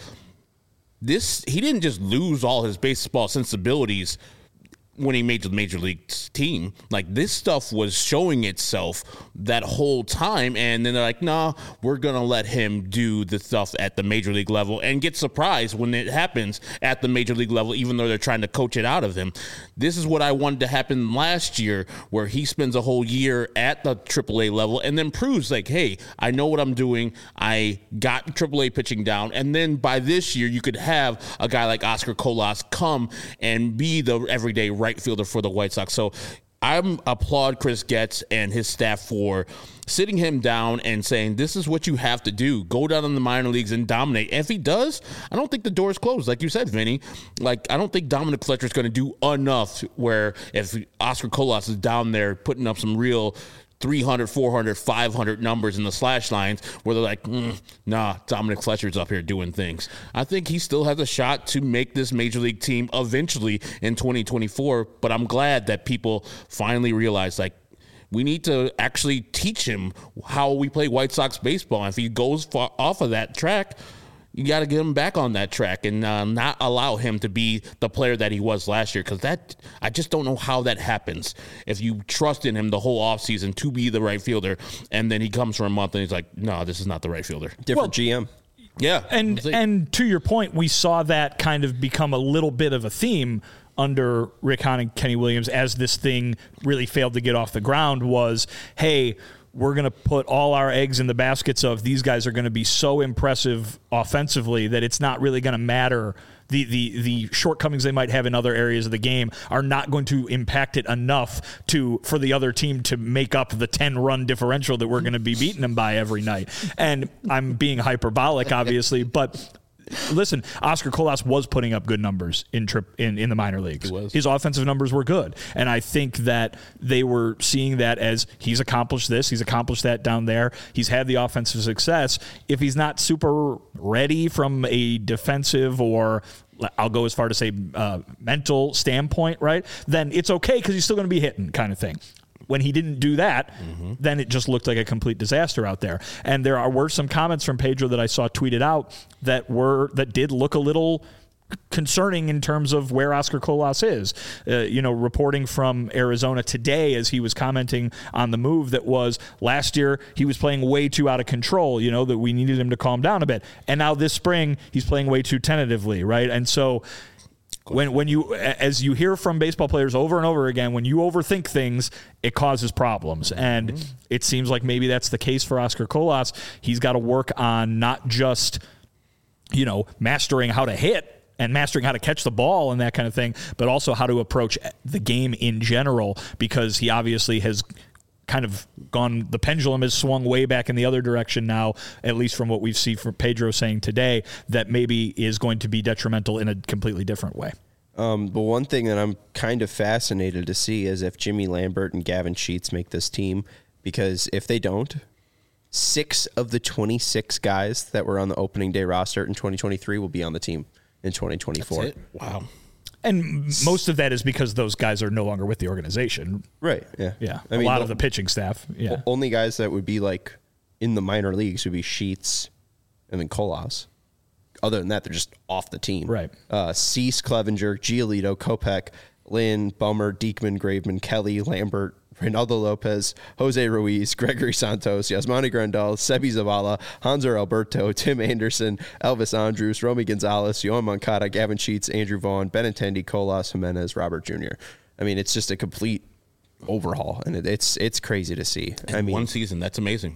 he didn't just lose all his baseball sensibilities when he made the major league team. Like, this stuff was showing itself that whole time, and then they're like, nah, we're gonna let him do the stuff at the major league level, and get surprised when it happens at the major league level, even though they're trying to coach it out of him. This is what I wanted to happen last year, where he spends a whole year at the AAA level and then proves like, hey, I know what I'm doing. I got AAA pitching down. And then by this year, you could have a guy like Oscar Colas come and be the everyday right fielder for the White Sox. So I applaud Chris Getz and his staff for sitting him down and saying, this is what you have to do. Go down in the minor leagues and dominate. And if he does, I don't think the door is closed. Like you said, Vinny, like, I don't think Dominic Fletcher is going to do enough where if Oscar Colas is down there putting up some real 300, 400, 500 numbers in the slash lines where they're like, nah, Dominic Fletcher's up here doing things. I think he still has a shot to make this major league team eventually in 2024, but I'm glad that people finally realize, like, we need to actually teach him how we play White Sox baseball. And if he goes off of that track, you got to get him back on that track and not allow him to be the player that he was last year, because I just don't know how that happens. If you trust in him the whole offseason to be the right fielder, and then he comes for a month and he's like, no, this is not the right fielder. Different GM. Yeah. And to your point, we saw that kind of become a little bit of a theme under Rick Hahn and Kenny Williams as this thing really failed to get off the ground was, hey, we're going to put all our eggs in the baskets of these guys are going to be so impressive offensively that it's not really going to matter the shortcomings they might have in other areas of the game are not going to impact it enough for the other team to make up the 10-run differential that we're going to be beating them by every night. And I'm being hyperbolic, obviously, but listen, Oscar Colas was putting up good numbers in the minor leagues. His offensive numbers were good. And I think that they were seeing that as he's accomplished this, he's accomplished that down there. He's had the offensive success. If he's not super ready from a defensive or I'll go as far to say mental standpoint, right, then it's okay because he's still going to be hitting kind of thing. When he didn't do that, then it just looked like a complete disaster out there. And there were some comments from Pedro that I saw tweeted out that did look a little concerning in terms of where Oscar Colas is. Reporting from Arizona today as he was commenting on the move that was last year he was playing way too out of control, that we needed him to calm down a bit. And now this spring he's playing way too tentatively, right? And so when you, as you hear from baseball players over and over again, when you overthink things, it causes problems. And it seems like maybe that's the case for Oscar Colas. He's got to work on not just, mastering how to hit and mastering how to catch the ball and that kind of thing, but also how to approach the game in general, because he obviously has kind of the pendulum has swung way back in the other direction now, at least from what we've seen from Pedro saying today, that maybe is going to be detrimental in a completely different way. But one thing that I'm kind of fascinated to see is if Jimmy Lambert and Gavin Sheets make this team, because if they don't, 6 of the 26 guys that were on the opening day roster in 2023 will be on the team in 2024. That's it? Wow. And most of that is because those guys are no longer with the organization. Right, yeah. Yeah, a lot of the pitching staff. Yeah. Only guys that would be like in the minor leagues would be Sheets and then Colas. Other than that, they're just off the team. Right. Cease, Clevenger, Giolito, Kopech, Lynn, Bummer, Diekman, Graveman, Kelly, Lambert, Reynaldo Lopez, Jose Ruiz, Gregory Santos, Yasmani Grandal, Sebi Zavala, Hanser Alberto, Tim Anderson, Elvis Andrus, Romy Gonzalez, Yohan Moncada, Gavin Sheets, Andrew Vaughn, Benintendi, Colas, Jimenez, Robert Jr. I mean, it's just a complete overhaul, and it's crazy to see. One season, that's amazing.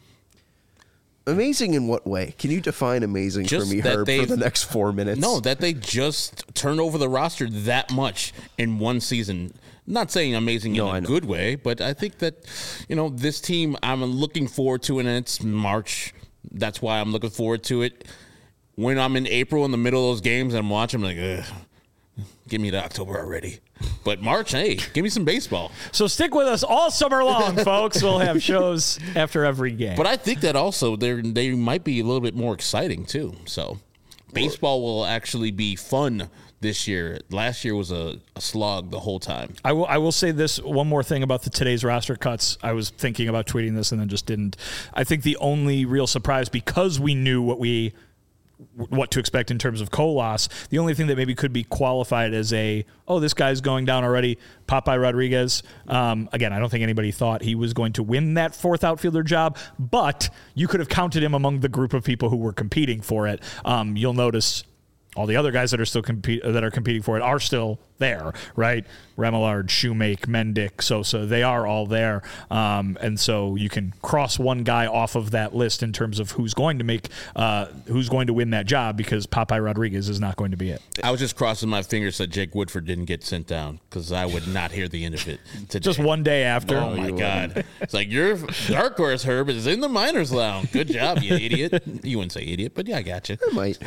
Amazing in what way? Can you define amazing for me, Herb, for the next 4 minutes? No, that they just turned over the roster that much in one season. Not saying amazing in a good way, but I think that, this team I'm looking forward to, and it's March. That's why I'm looking forward to it. When I'm in April in the middle of those games and I'm watching, I'm like, give me to October already. But March, hey, give me some baseball. So stick with us all summer long, folks. We'll have shows after every game. But I think that also they might be a little bit more exciting, too. So baseball will actually be fun this year. Last year was a slog the whole time. I will say this one more thing about today's roster cuts. I was thinking about tweeting this and then just didn't. I think the only real surprise, because we knew what to expect in terms of Colas, the only thing that maybe could be qualified as this guy's going down already, Popeye Rodriguez. Again, I don't think anybody thought he was going to win that 4th outfielder job, but you could have counted him among the group of people who were competing for it. You'll notice all the other guys that are still competing for it are still there, right? Remillard, Shoemake, Mendick, Sosa, they are all there. And so you can cross one guy off of that list in terms of who's going to win that job, because Popeye Rodriguez is not going to be it. I was just crossing my fingers that Jake Woodford didn't get sent down, because I would not hear the end of it today. Just one day after. Oh, my God. It's like, your dark horse, Herb, is in the minors lounge. Good job, you idiot. You wouldn't say idiot, but yeah, I got you. I might.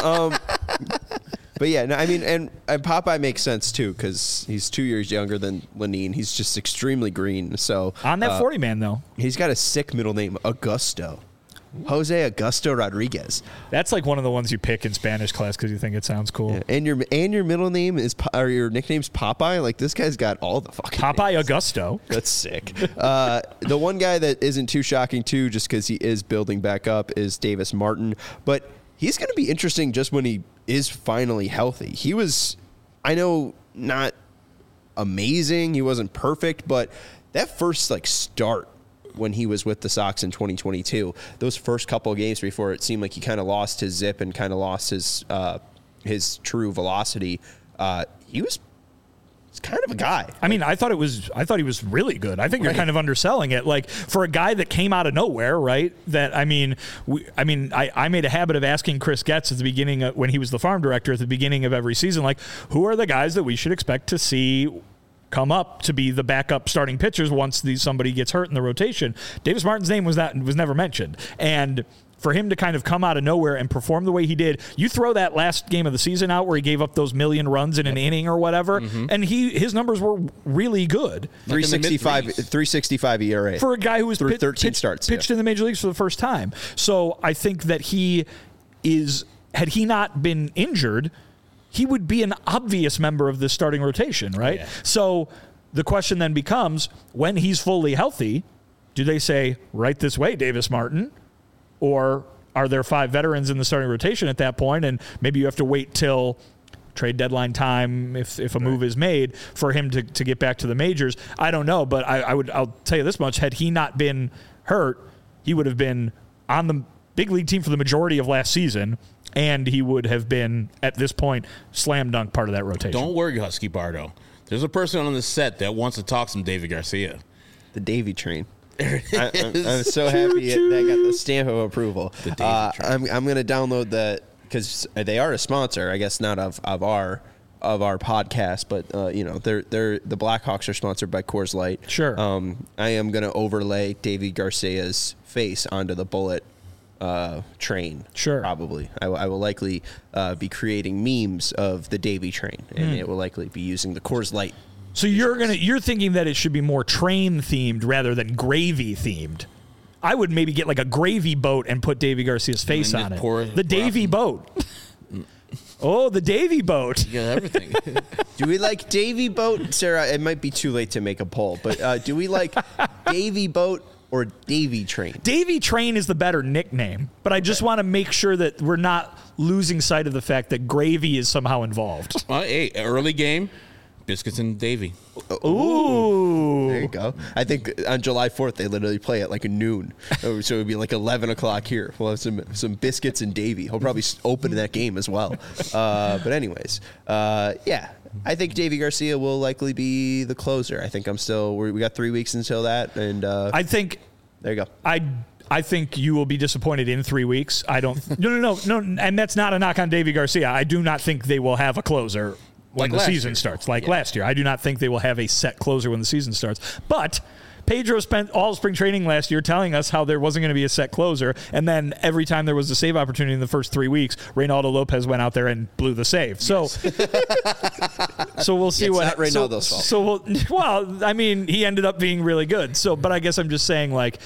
But yeah, no, I mean, and Popeye makes sense too, because he's 2 years younger than Lenine. He's just extremely green. So on that 40 man though, he's got a sick middle name, Augusto. Jose Augusto Rodriguez. That's like one of the ones you pick in Spanish class because you think it sounds cool. Yeah. And your middle name or your nickname's Popeye. Like, this guy's got all the fucking Popeye names. Augusto. That's sick. The one guy that isn't too shocking too, just because he is building back up, is Davis Martin. But he's going to be interesting just when he is finally healthy. He was, I know, not amazing. He wasn't perfect, but that first start when he was with the Sox in 2022, those first couple of games before it seemed like he kind of lost his zip and kind of lost his true velocity, he was He's kind of a guy. I mean, I thought he was really good. I think you're kind of underselling it. Like, for a guy that came out of nowhere, right? That I made a habit of asking Chris Getz at the beginning when he was the farm director at the beginning of every season, like, who are the guys that we should expect to see come up to be the backup starting pitchers once somebody gets hurt in the rotation. Davis Martin's name was never mentioned, and for him to kind of come out of nowhere and perform the way he did, you throw that last game of the season out where he gave up those million runs in an inning or whatever, and his numbers were really good. 365 ERA for a guy who was 13 starts pitched in the major leagues for the first time. So I think that had he not been injured, he would be an obvious member of this starting rotation, right? Yeah. So the question then becomes, when he's fully healthy, do they say, right this way, Davis Martin? Or are there 5 veterans in the starting rotation at that point, and maybe you have to wait till trade deadline time if a move is made for him to get back to the majors? I don't know, but I'll tell you this much. Had he not been hurt, he would have been on the big league team for the majority of last season, and he would have been, at this point, slam dunk part of that rotation. Don't worry, Husky Bardo. There's a person on the set that wants to talk some David Garcia. The Davy train. I'm so happy that got the stamp of approval. I'm going to download that because they are a sponsor, I guess not of our podcast, but they're the Blackhawks are sponsored by Coors Light. Sure. I am going to overlay Davy Garcia's face onto the bullet train. Sure. Probably. I will likely be creating memes of the Davy train, and it will likely be using the Coors Light. So you're thinking that it should be more train themed rather than gravy themed. I would maybe get like a gravy boat and put Davy Garcia's face on it. The Davy boat. Oh, the Davy boat. You got everything. Do we like Davy boat, Sarah? It might be too late to make a poll, but do we like Davy boat or Davy train? Davy train is the better nickname, but I just want to make sure that we're not losing sight of the fact that gravy is somehow involved. Hey, early game. Biscuits and Davy. Ooh. There you go. I think on July 4th, they literally play at like noon. So it would be like 11 o'clock here. We'll have some Biscuits and Davy. He'll probably open that game as well. But anyways, yeah. I think Davy Garcia will likely be the closer. I think we got 3 weeks until that. And I think. There you go. I think you will be disappointed in 3 weeks. I don't. No. And that's not a knock on Davy Garcia. I do not think they will have a closer when the season starts, last year. I do not think they will have a set closer when the season starts. But Pedro spent all spring training last year telling us how there wasn't going to be a set closer, and then every time there was a save opportunity in the first 3 weeks, Reynaldo Lopez went out there and blew the save. So, so we'll see what. It's not Reynaldo's fault. So I mean, he ended up being really good. So, but I guess I'm just saying, like,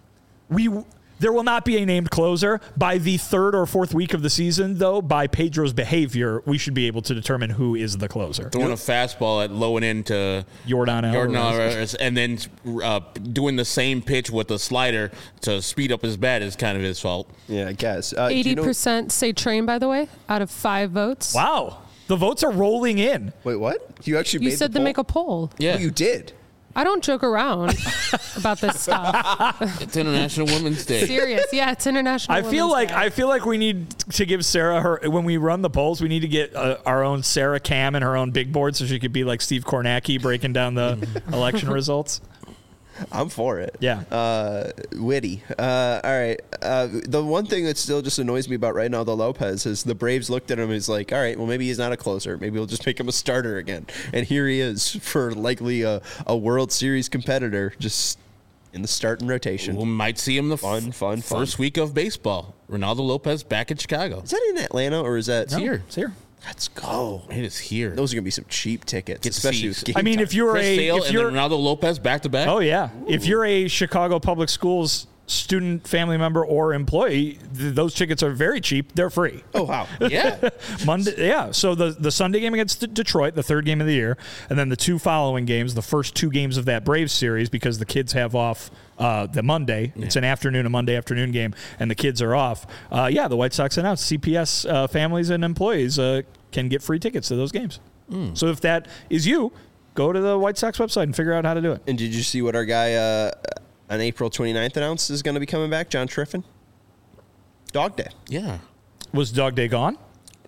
there will not be a named closer. By the 3rd or 4th week of the season, though, by Pedro's behavior, we should be able to determine who is the closer. Throwing a fastball at low and into Jordan Alvarez, and then doing the same pitch with the slider to speed up his bat is kind of his fault. Yeah, I guess. 80% say train, by the way, out of 5 votes. Wow. The votes are rolling in. Wait, what? You said to make a poll. Yeah. Oh, you did. I don't joke around about this stuff. It's International Women's Day. Serious. Yeah, it's International Women's Day. I feel like we need to give Sarah when we run the polls, we need to get our own Sarah Cam and her own big board so she could be like Steve Kornacki breaking down the election results. I'm for it. Yeah. Witty. All right. The one thing that still just annoys me about Reynaldo Lopez is the Braves looked at him and was like, all right, well, maybe he's not a closer. Maybe we'll just make him a starter again. And here he is for likely a World Series competitor just in the starting rotation. We might see him the first week of baseball. Reynaldo Lopez back in Chicago. Is that in Atlanta or is that? It's here. It's here. Let's go. It is here. Those are going to be some cheap tickets, especially with game I mean, time. if you're Chris Sale and then Reynaldo Lopez back to back. Oh, yeah. Ooh. If you're a Chicago Public Schools student, family member, or employee, those tickets are very cheap. They're free. Oh, wow. Yeah. Monday, yeah. So the Sunday game against Detroit, the 3rd game of the year, and then the 2 following games, the first 2 games of that Braves series, because the kids have off the Monday. Yeah. It's a Monday afternoon game, and the kids are off. The White Sox announced CPS families and employees can get free tickets to those games. So if that is you, go to the White Sox website and figure out how to do it. And did you see what our guy on April 29th announced is going to be coming back? John Triffin? Dog Day. Yeah. Was Dog Day gone?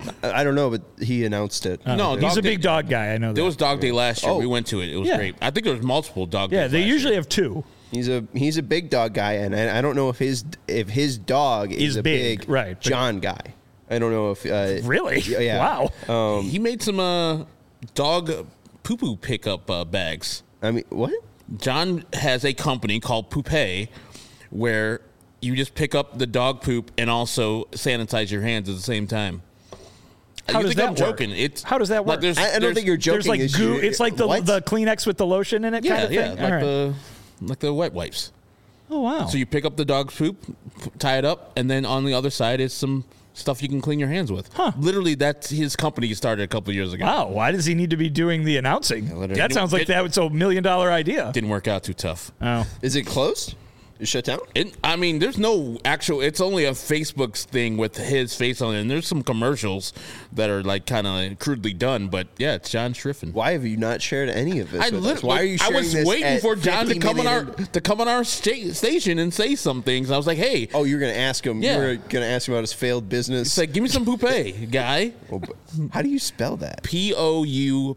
I don't know, but he announced it. No, He's Dog a big Day- dog guy. I know that. There was Dog Day last year. Oh. We went to it. It was Yeah. great. I think there was multiple Dog Yeah, Days they last usually year. have two. He's a big dog guy, and I don't know if his dog is a big, right, but- John guy. I don't know if Really? Yeah. Wow. He made some dog poo-poo pickup bags. I mean, what? John has a company called Poupée where you just pick up the dog poop and also sanitize your hands at the same time. How You does think that I'm work? joking? It's How does that like work? there's- I don't there's- think you're joking. There's like is goo. you- It's like the what? Kleenex with the lotion in it kind Yeah, of thing? yeah, All like right. the wet wipes. Oh, wow. So you pick up the dog's poop, tie it up, and then on the other side is some stuff you can clean your hands with. Huh. Literally, that's his company he started a couple of years ago. Wow, why does he need to be doing the announcing? literally. That sounds like that was a $1 million idea. Didn't work out too tough. Oh. Is it closed? Is it shut down? I mean, there's no actual. It's only a Facebook thing with his face on it, and there's some commercials that are like kind of crudely done. But yeah, it's John Schriffen. Why have you not shared any of this? with us? Why are you I sharing was this waiting at for John to 50 come minute on our station and say some things. I was like, hey, Oh, you're gonna ask him. Yeah. You're gonna ask him about his failed business. it's like, give me some poupée, guy. Oh, but how do you spell that? Poupe.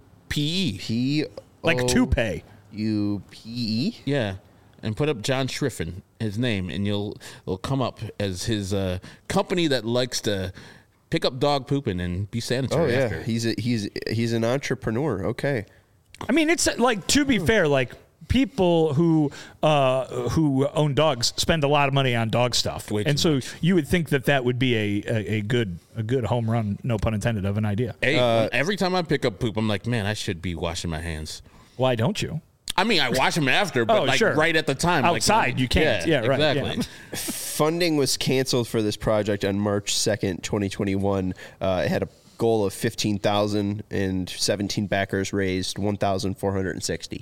Like toupee. P-U-P-E? Yeah, and put up John Schriffen, his name, and it'll come up as his company that likes to pick up dog pooping and be Oh sanitary yeah, after. he's an entrepreneur. Okay. I mean, it's like, to be fair, like people who own dogs spend a lot of money on dog stuff, Way and too so you would think that would be a good home run, no pun intended, of an idea. Hey, every time I pick up poop, I'm like, man, I should be washing my hands. Why don't you? I mean, I wash them after, but Oh, like sure. right at the time. Outside, like, you can't. Yeah, right, Exactly. yeah. Funding was canceled for this project on March 2nd, 2021. It had a goal of 15,000 and 17 backers raised 1,460.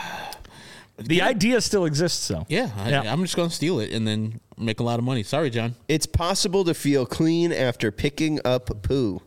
The idea still exists, though. Yeah, I'm just going to steal it and then make a lot of money. Sorry, John. It's possible to feel clean after picking up poo.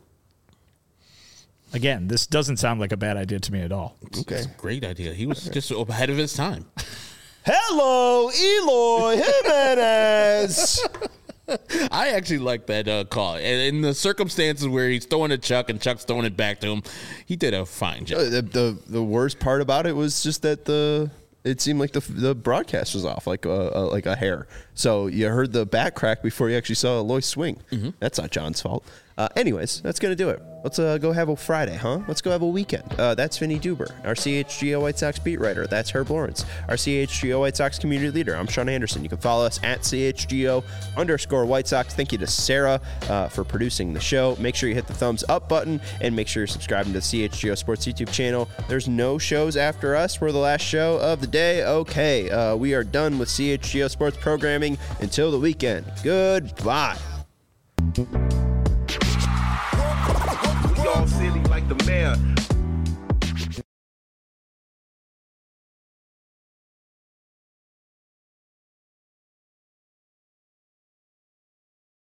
Again, this doesn't sound like a bad idea to me at all. Okay. It's a great idea. He was just ahead of his time. Hello, Eloy Jimenez. I actually like that call. And in the circumstances where he's throwing it to Chuck and Chuck's throwing it back to him, he did a fine job. The worst part about it was just that it seemed like the broadcast was off like a hair. So you heard the back crack before you actually saw Eloy swing. That's not John's fault. Anyways, that's going to do it. Let's go have a Friday, huh? Let's go have a weekend. That's Vinny Duber, our CHGO White Sox beat writer. That's Herb Lawrence, our CHGO White Sox community leader. I'm Sean Anderson. You can follow us at CHGO_White Sox. Thank you to Sarah for producing the show. Make sure you hit the thumbs up button and make sure you're subscribing to the CHGO Sports YouTube channel. There's no shows after us. We're the last show of the day. Okay, we are done with CHGO Sports programming until the weekend. Goodbye. We all silly like the mayor.